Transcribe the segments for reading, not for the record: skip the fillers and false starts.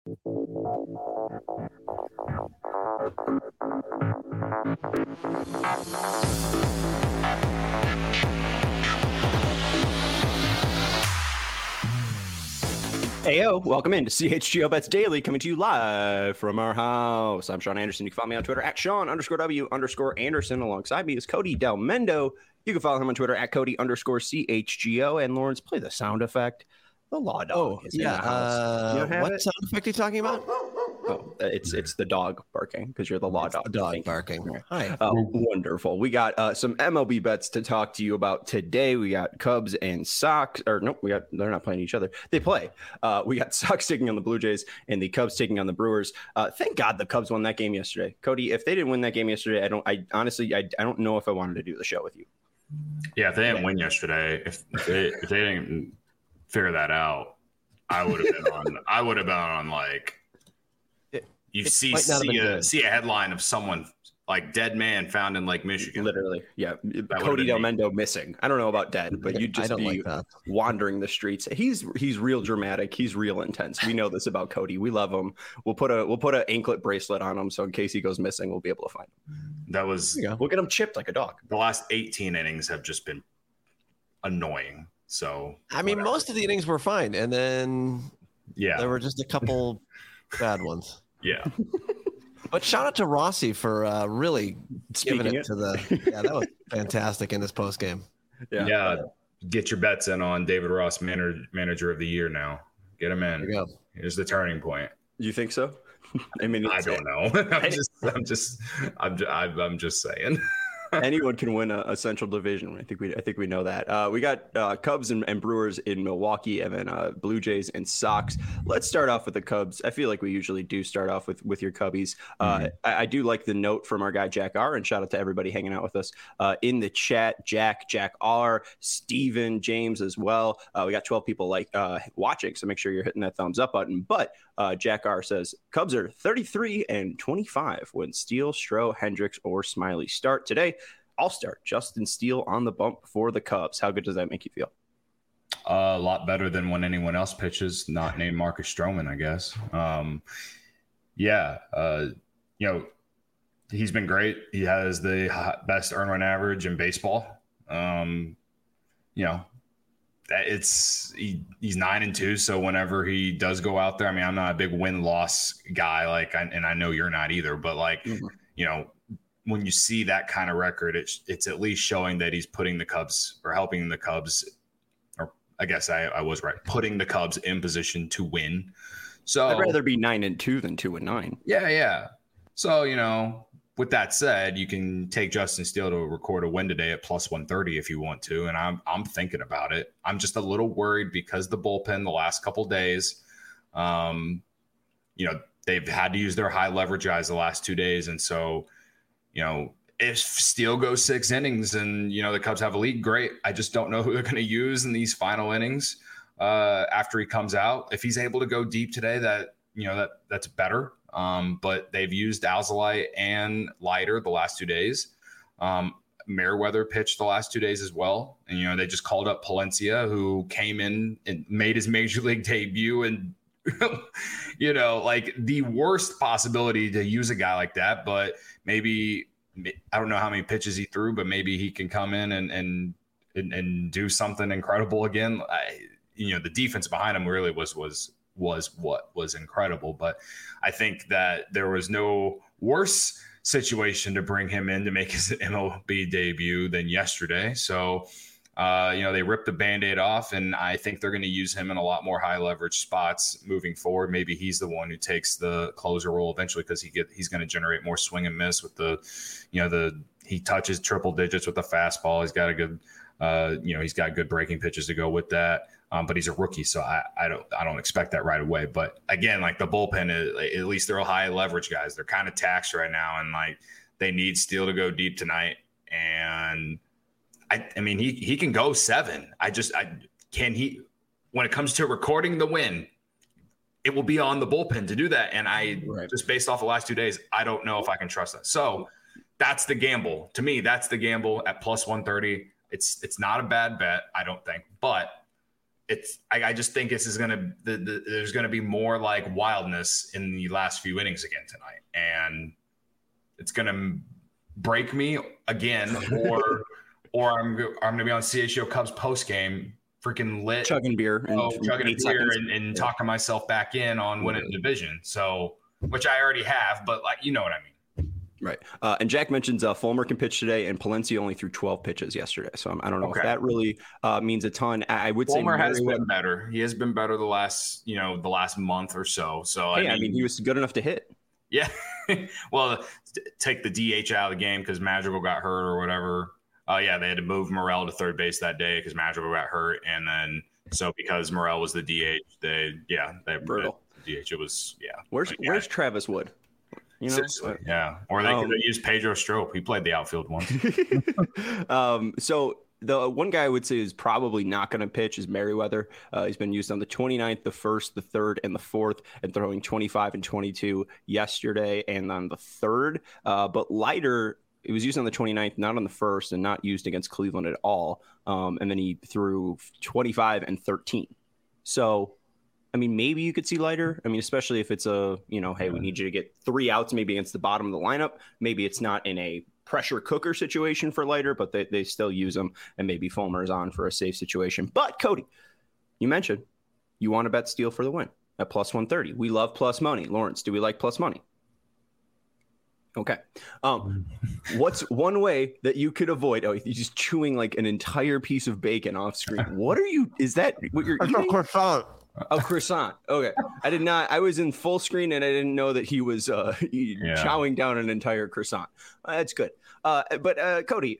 Heyo, welcome into CHGO Bets Daily, coming to you live from our house. I'm Sean Anderson. You can follow me on Twitter at Sean_W_Anderson. Alongside me is Cody Del Mendo. You can follow him on Twitter at Cody_CHGO. And Lawrence, play the sound effect. The law dog is in the house. What sound effect are you talking about? Oh, it's the dog barking because you're the law dog. The dog barking. Hi. Wonderful. We got some MLB bets to talk to you about today. We got Cubs and Sox. Or nope, they're not playing each other. They play. We got Sox taking on the Blue Jays and the Cubs taking on the Brewers. Thank God the Cubs won that game yesterday. Cody, if they didn't win that game yesterday, I honestly don't know if I wanted to do the show with you. Yeah, if they didn't win yesterday, if they didn't figure that out, I would have been on like. You see a headline of someone like dead man found in Lake Michigan. Literally, yeah. Cody Del Mendo missing. I don't know about dead, but you'd just be wandering the streets. He's real dramatic. He's real intense. We know this about Cody. We love him. We'll put an anklet bracelet on him, so in case he goes missing, we'll be able to find him. We'll get him chipped like a dog. The last 18 innings have just been annoying. So I mean, most of the innings were fine, and then there were just a couple bad ones. Yeah. But shout out to Rossi for really giving it to the. Yeah, that was fantastic in this post game. Yeah. Get your bets in on David Ross, manager of the year now. Get him in. There you go. Here's the turning point. You think so? I mean, I don't know. I'm just saying. Anyone can win a Central Division. I think we know that. We got Cubs and Brewers in Milwaukee, and then Blue Jays and Sox. Let's start off with the Cubs. I feel like we usually do start off with your Cubbies. I do like the note from our guy Jack R. And shout out to everybody hanging out with us in the chat. Jack R, Steven, James as well. We got 12 people watching, so make sure you're hitting that thumbs up button. But Jack R says Cubs are 33-25 when Steele, Stroh, Hendricks, or Smiley start today. I'll start Justin Steele on the bump for the Cubs. How good does that make you feel? A lot better than when anyone else pitches, not named Marcus Stroman, I guess. He's been great. He has the best earn run average in baseball. He's 9-2. So whenever he does go out there, I mean, I'm not a big win-loss guy, and I know you're not either, but when you see that kind of record, it's at least showing that he's putting the Cubs or helping the Cubs, or I guess I was right, putting the Cubs in position to win. So I'd rather be 9-2 than 2-9. Yeah. So, with that said, you can take Justin Steele to record a win today at plus 130 if you want to. And I'm thinking about it. I'm just a little worried because the bullpen the last couple days, they've had to use their high leverage guys the last 2 days. And so, if Steele goes 6 innings and, the Cubs have a lead, great. I just don't know who they're going to use in these final innings after he comes out. If he's able to go deep today, that's better. But they've used Alzolay and Leiter the last 2 days. Merriweather pitched the last 2 days as well. And, they just called up Palencia, who came in and made his major league debut and, the worst possibility to use a guy like that. But maybe, I don't know how many pitches he threw, but maybe he can come in and do something incredible again. The defense behind him really was what was incredible. But I think that there was no worse situation to bring him in to make his MLB debut than yesterday. So, they ripped the Band-Aid off, and I think they're going to use him in a lot more high leverage spots moving forward. Maybe he's the one who takes the closer role eventually because he's going to generate more swing and miss with he touches triple digits with the fastball. He's got a good, he's got good breaking pitches to go with that. But he's a rookie, so I don't expect that right away. But again, the bullpen, at least they're all high leverage guys. They're kind of taxed right now, and they need Steele to go deep tonight. And I mean, he can go 7. Can he? When it comes to recording the win, it will be on the bullpen to do that. And just based off the last 2 days, I don't know if I can trust that. So that's the gamble. To me, that's the gamble at plus 130. It's not a bad bet, I don't think, but I just think this is there's gonna be more like wildness in the last few innings again tonight, and it's gonna break me again, or I'm gonna be on CHGO Cubs post game, freaking lit, chugging beer, and talking myself back in on winning the division. So, which I already have, but like you know what I mean. Right. And Jack mentions Fulmer can pitch today, and Palencia only threw 12 pitches yesterday. So I don't know if that really means a ton. I would Fulmer say has been better. He has been better the last month or so. So I mean, he was good enough to hit. Yeah. Well, take the DH out of the game because Madrigal got hurt or whatever. Yeah, they had to move Morel to third base that day because Madrigal got hurt, and then so because Morel was the DH, they brutal. The DH. It was Where's Travis Wood? You know? Seriously, yeah. Or they could have used Pedro Strop. He played the outfield once. So the one guy I would say is probably not going to pitch is Merriweather. He's been used on the 29th, the 1st, the 3rd, and the 4th, and throwing 25 and 22 yesterday and on the 3rd. But Leiter, it was used on the 29th, not on the 1st, and not used against Cleveland at all. And then he threw 25 and 13. So I mean, maybe you could see Leiter. I mean, especially if it's hey, we need you to get 3 outs maybe against the bottom of the lineup. Maybe it's not in a pressure cooker situation for Leiter, but they still use him, and maybe Fulmer is on for a safe situation. But Cody, you mentioned you want to bet Steele for the win at plus 130. We love plus money. Lawrence, do we like plus money? Okay. What's one way that you could avoid? Oh, you're just chewing like an entire piece of bacon off screen. What are you? Is that what you're eating? Croissant. Oh, croissant. Okay. I did not. I was in full screen and I didn't know that he was chowing down an entire croissant. That's good. But Cody,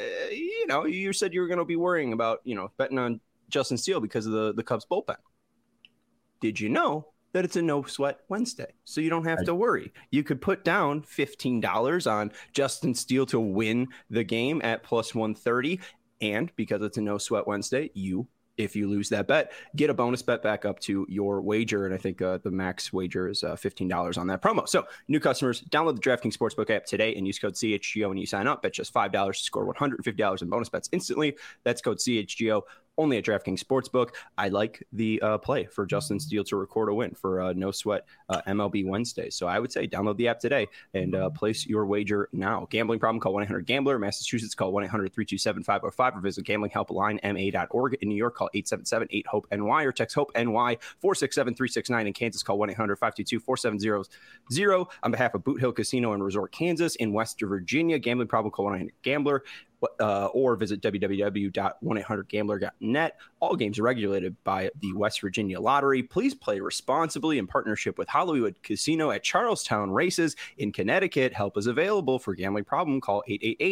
you said you were going to be worrying about, betting on Justin Steele because of the Cubs bullpen. Did you know that it's a no sweat Wednesday? So you don't have to worry. You could put down $15 on Justin Steele to win the game at plus 130. And because it's a no sweat Wednesday, if you lose that bet, get a bonus bet back up to your wager. And I think the max wager is $15 on that promo. So new customers, download the DraftKings Sportsbook app today and use code CHGO when you sign up. Bet just $5 to score $150 in bonus bets instantly. That's code CHGO. Only at DraftKings Sportsbook. I like the play for Justin Steele to record a win for no sweat MLB Wednesday. So I would say download the app today and place your wager now. Gambling problem? Call 1-800-GAMBLER. Massachusetts, call 1-800-327-505 or visit gamblinghelplinema.org. In New York, call 877-8-HOPE-NY or text HOPE-NY 467-369. In Kansas, call 1-800-522-4700. On behalf of Boot Hill Casino and Resort, Kansas, in West Virginia, gambling problem? Call 1-800-GAMBLER. Or visit www.1800gambler.net. All games are regulated by the West Virginia Lottery. Please play responsibly in partnership with Hollywood Casino at Charlestown Races in Connecticut. Help is available for gambling problem. Call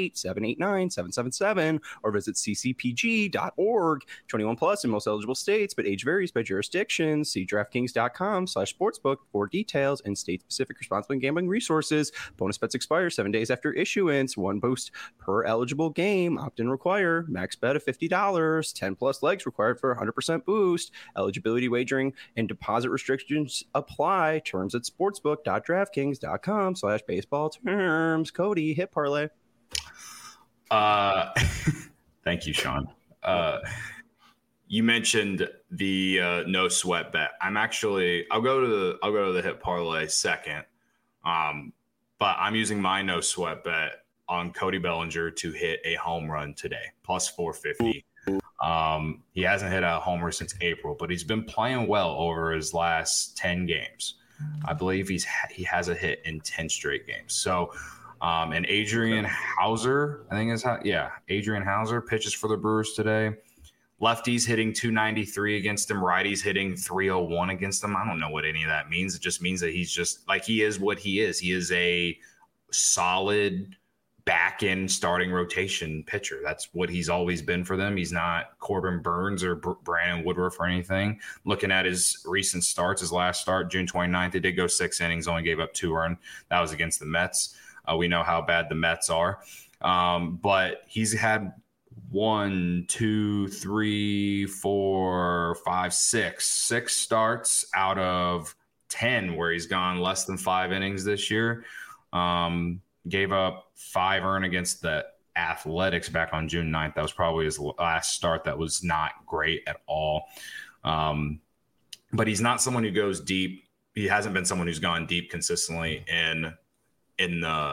888-789-777 or visit ccpg.org. 21 plus in most eligible states, but age varies by jurisdiction. See DraftKings.com/sportsbook for details and state-specific responsible gambling resources. Bonus bets expire 7 days after issuance. 1 boost per eligible game. Opt-in require. Max bet of $50. 10 plus legs required for 100% boost. Eligibility, wagering, and deposit restrictions apply. Terms at sportsbook.draftkings.com/baseball terms. Cody, hit parlay. Thank you, Sean. You mentioned the no sweat bet. I'll go to the hit parlay second. But I'm using my no sweat bet on Cody Bellinger to hit a home run today, plus 450. He hasn't hit a homer since April, but he's been playing well over his last 10 games. I believe he has a hit in 10 straight games. So, and Adrian Hauser, Adrian Hauser pitches for the Brewers today. Lefties hitting 293 against him. Righties hitting 301 against him. I don't know what any of that means. It just means that he's just like, he is what he is. He is a solid back end starting rotation pitcher. That's what he's always been for them. He's not Corbin Burns or Brandon Woodruff or anything. Looking at his recent starts, his last start, June 29th, he did go 6 innings, only gave up 2 runs. That was against the Mets. We know how bad the Mets are. But he's had 6 starts out of 10 where he's gone less than 5 innings this year. Gave up 5 earned against the Athletics back on June 9th. That was probably his last start. That was not great at all. But he's not someone who goes deep. He hasn't been someone who's gone deep consistently he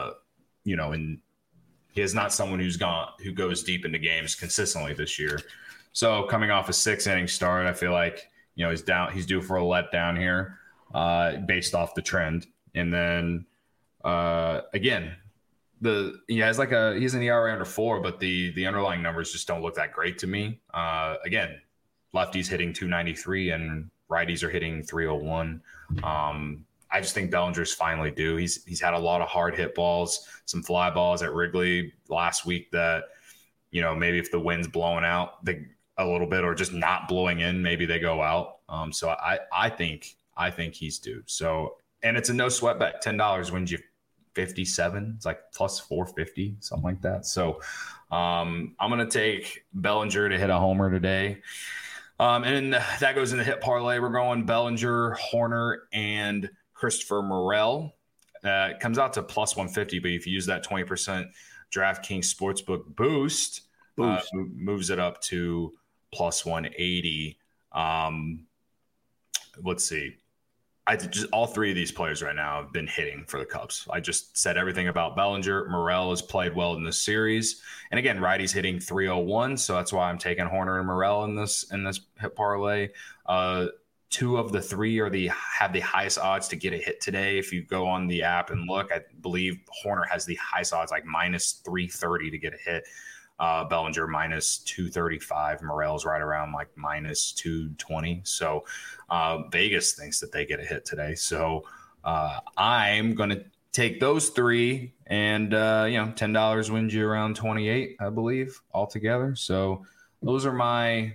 is not someone who goes deep into games consistently this year. So coming off a 6-inning start, I feel like, he's due for a letdown here, based off the trend. And then, again, he's an ERA under 4, but the underlying numbers just don't look that great to me. Again, lefties hitting 293 and righties are hitting 301. I just think Bellinger's finally due. He's had a lot of hard hit balls, some fly balls at Wrigley last week that, maybe if the wind's blowing out a little bit or just not blowing in, maybe they go out. So I think he's due. So, and it's a no sweat bet. $10 wins you 57. It's like plus 450, something like that. So I'm going to take Bellinger to hit a homer today. And that goes in the hit parlay. We're going Bellinger, Horner, and Christopher Morel. It comes out to plus 150, but if you use that 20% DraftKings Sportsbook boost. Moves it up to plus 180. Let's see. All three of these players right now have been hitting for the Cubs. I just said everything about Bellinger. Morel has played well in this series. And again, righty's hitting 301, so that's why I'm taking Horner and Morel in this hit parlay. 2 of the 3 have the highest odds to get a hit today. If you go on the app and look, I believe Horner has the highest odds, like minus 330 to get a hit. Bellinger minus 235. Morel's right around like minus 220. So Vegas thinks that they get a hit today. So I'm going to take those 3 and, $10 wins you around 28, I believe, altogether. So those are my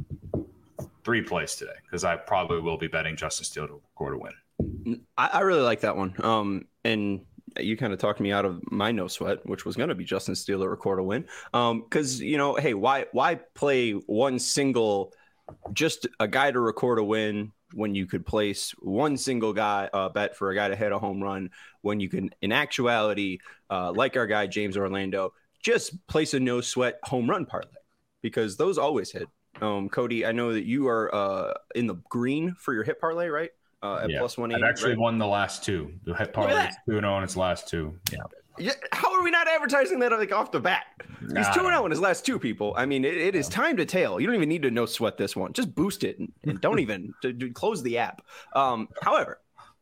3 plays today because I probably will be betting Justin Steele to record a win. I really like that one. And you kind of talked me out of my no sweat, which was going to be Justin Steele to record a win. Because, hey, why play one single, just a guy to record a win when you could place one single guy bet for a guy to hit a home run when you can, in actuality, like our guy, James Orlando, just place a no sweat home run parlay because those always hit. Cody, I know that you are in the green for your hit parlay, right? At plus 180. I've actually won the last 2. The hit parlay is 2-0 in its last 2. Yeah. How are we not advertising that like off the bat? He's 2-0 in his last 2, people. I mean, it is time to tail. You don't even need to no sweat this one. Just boost it and don't even close the app. However,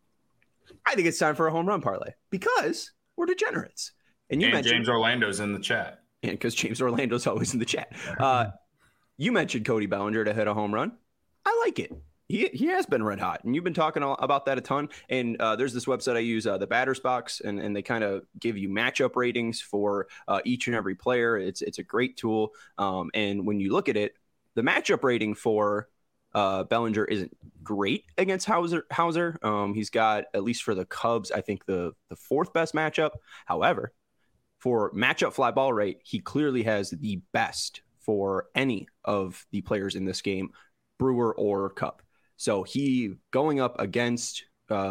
I think it's time for a home run parlay because we're degenerates. And mentioned James Orlando's in the chat. And because James Orlando's always in the chat. You mentioned Cody Bellinger to hit a home run. I like it. He has been red hot, and you've been talking about that a ton. And there's this website I use, the Batters Box, and they kind of give you matchup ratings for each and every player. It's a great tool. And when you look at it, the matchup rating for Bellinger isn't great against Hauser. He's got, at least for the Cubs, I think the 4th best matchup. However, for matchup fly ball rate, he clearly has the best for any of the players in this game, Brewer or Cub. So he going up against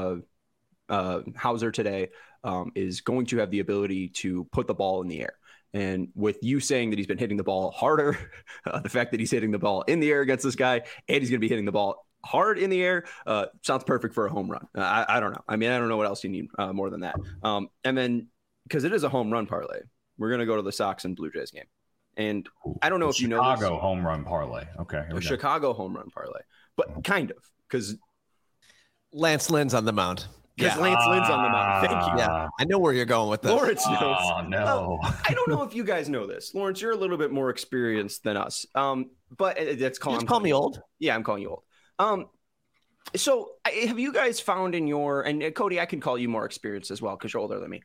Hauser today is going to have the ability to put the ball in the air. And with you saying that he's been hitting the ball harder, the fact that he's hitting the ball in the air against this guy, and he's going to be hitting the ball hard in the air, sounds perfect for a home run. I don't know. I mean, I don't know what else you need more than that. And then, because it is a home run parlay, we're going to go to the Sox and Blue Jays game. And I don't know if you know this. Chicago home run parlay. Okay. A Chicago home run parlay. But kind of, because Lance Lynn's on the mound. Because Lance Lynn's on the mound. Thank you. Yeah, I know where you're going with this. Lawrence knows. Oh, no. I don't know if you guys know this. Lawrence, you're a little bit more experienced than us. But that's call me old? Yeah, I'm calling you old. So have you guys found in your, and Cody, I can call you more experienced as well because you're older than me.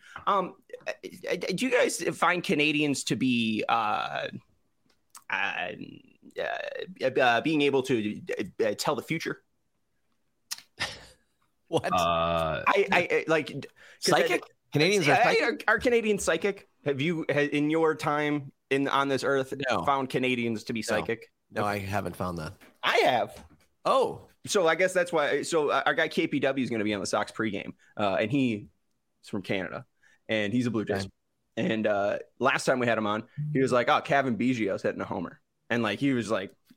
Do you guys find Canadians to be being able to tell the future? What? I like psychic. Canadians are psychic. Are Canadians psychic? Have you, in your time on this earth, found Canadians to be psychic? No, I haven't found that. I have. Oh, so I guess that's why. So our guy KPW is going to be on the Sox pregame, and he's from Canada, and he's a Blue Jays. Okay. And last time we had him on, he was like, "Oh, Kevin Biggio's hitting a homer," and like he was like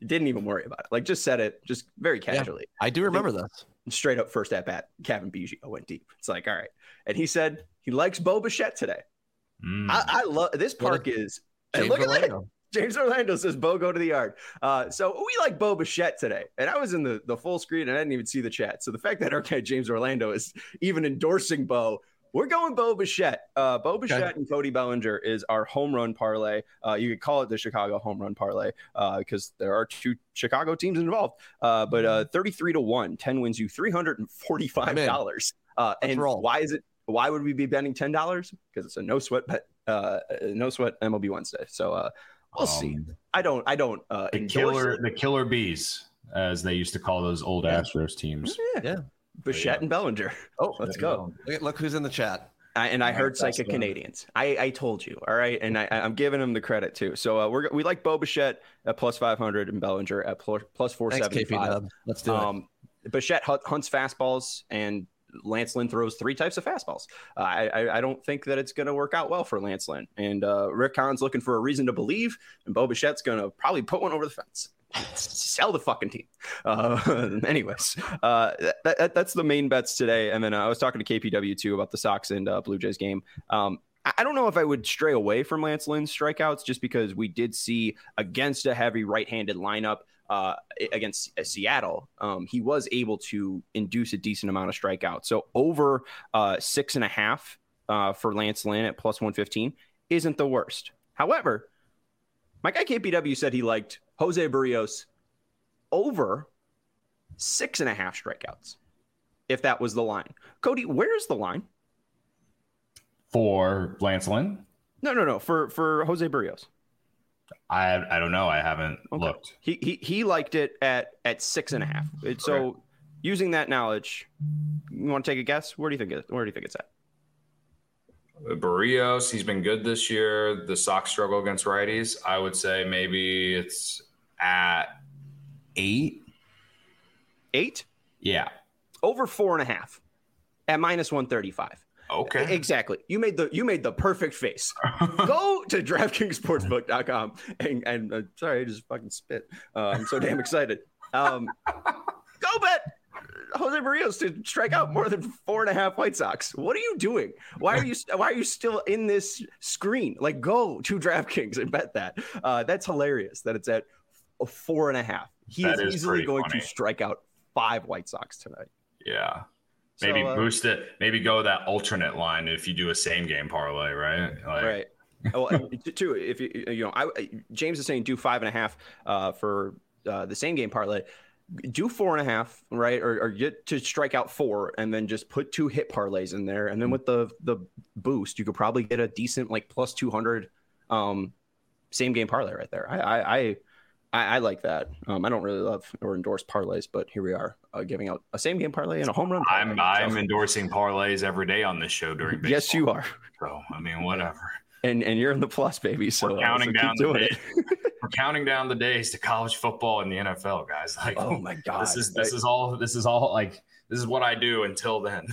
didn't even worry about it. Like, just said it just very casually. Yeah, I do remember this. Straight up first at bat, Kevin Biggio went deep. It's like, all right. And he said he likes Bo Bichette today. I love this park is. And look at that. James Orlando says, Bo, go to the yard. So we like Bo Bichette today. And I was in the full screen and I didn't even see the chat. So the fact that our guy James Orlando is even endorsing Bo, we're going Bo Bichette. Bo Bichette and Cody Bellinger is our home run parlay. You could call it the Chicago home run parlay because there are 2 Chicago teams involved. But 33-1, 10 wins you $345. And why would we be betting $10? Because it's a no sweat bet, no sweat MLB Wednesday. So we'll see. I don't the killer bees, as they used to call those old Astros teams. Yeah. Bichette and Bellinger. Oh, let's go. Look who's in the chat. I heard Psychic Canadians. I told you. All right. And I'm giving them the credit too. So we like Bo Bichette at plus 500 and Bellinger at plus 475. Let's do it. Bichette hunts fastballs and Lance Lynn throws 3 types of fastballs. I don't think that it's going to work out well for Lance Lynn. And Rick Hahn's looking for a reason to believe, and Bo Bichette's going to probably put one over the fence. Sell the fucking team. Anyways, that's the main bets today. And then I was talking to KPW too about the Sox and Blue Jays game. I don't know if I would stray away from Lance Lynn's strikeouts just because we did see against a heavy right-handed lineup against Seattle, he was able to induce a decent amount of strikeouts. So over 6.5 for Lance Lynn at plus 115 isn't the worst. However, my guy KPW said he liked Jose Barrios over 6.5 strikeouts, if that was the line. Cody, where's the line? For Lance Lynn? No. For Jose Barrios. I don't know. I haven't looked. He liked it at 6.5. So using that knowledge, you want to take a guess? Where do you think it's at? Barrios, he's been good this year. The Sox struggle against righties. I would say maybe it's at 8. 8? Yeah. Over 4.5 at minus 135. Okay. Exactly. You made the perfect face. Go to DraftKingsSportsbook.com and sorry, I just fucking spit. I'm so damn excited. Go bet Jose Barrios to strike out more than 4.5 White Sox. What are you doing? Why are you still in this screen? Like, go to DraftKings and bet that. That's hilarious that it's at 4.5. He is easily going to strike out 5 White Sox tonight. Yeah. Maybe boost it. Maybe go that alternate line if you do a same game parlay, right? Right. Well, too, if James is saying do 5.5 for the same game parlay. Do 4.5, right? Or get to strike out 4, and then just put 2 hit parlays in there, and then with the boost, you could probably get a decent like plus 200 same game parlay right there. I like that. I don't really love or endorse parlays, but here we are giving out a same game parlay and a home run parlay. I'm endorsing parlays every day on this show during baseball. Yes, you are. So I mean, whatever. And you're in the plus, baby. So we're counting down the days. We're counting down the days to college football and the NFL, guys. Like, oh my god, this is all like this is what I do until then.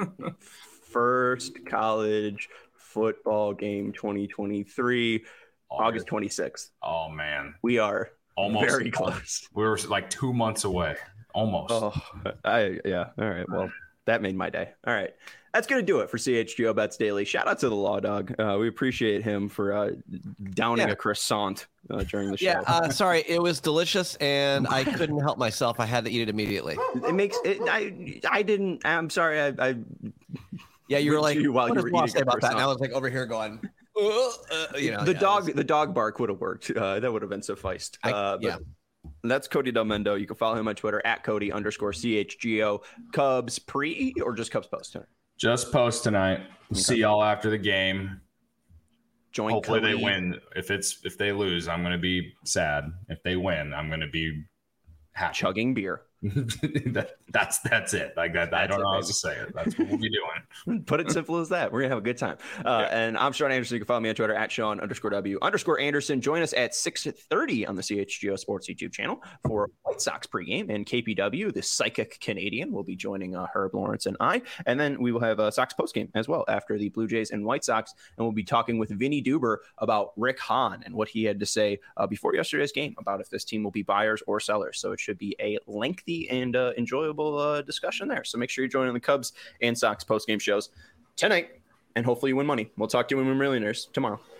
First college football game 2023, August 26th. Oh man, we are almost very close. We were like 2 months away, almost. Oh, yeah. All right. Well, that made my day. All right. That's going to do it for CHGO Bets Daily. Shout out to the Law Dog. We appreciate him for downing a croissant during the show. Yeah, sorry. It was delicious, and I couldn't help myself. I had to eat it immediately. It makes it. I didn't. I'm sorry. Yeah, you were like, while you were eating about that. And I was like over here going, the dog bark would have worked. That would have been sufficed. That's Cody Del Mendo. You can follow him on Twitter at Cody_CHGO. Cubs pre or just Cubs post tonight? Just post tonight. Okay. See y'all after the game. Hopefully Cody. They win. If they lose, I'm going to be sad. If they win, I'm going to be happy. Chugging beer. That's it. Like that. I don't know how to say it. That's what we'll be doing. Put it simple as that. We're gonna have a good time. And I'm Sean Anderson. You can follow me on Twitter at Sean_W_Anderson. Join us at 6:30 on the CHGO Sports YouTube channel for White Sox pregame, and KPW, the psychic Canadian, will be joining Herb Lawrence and I. And then we will have a Sox postgame as well after the Blue Jays and White Sox, and we'll be talking with Vinny Duber about Rick Hahn and what he had to say before yesterday's game about if this team will be buyers or sellers. So it should be a lengthy and enjoyable discussion there. So make sure you're joining the Cubs and Sox postgame shows tonight, and hopefully you win money. We'll talk to you when we're millionaires tomorrow.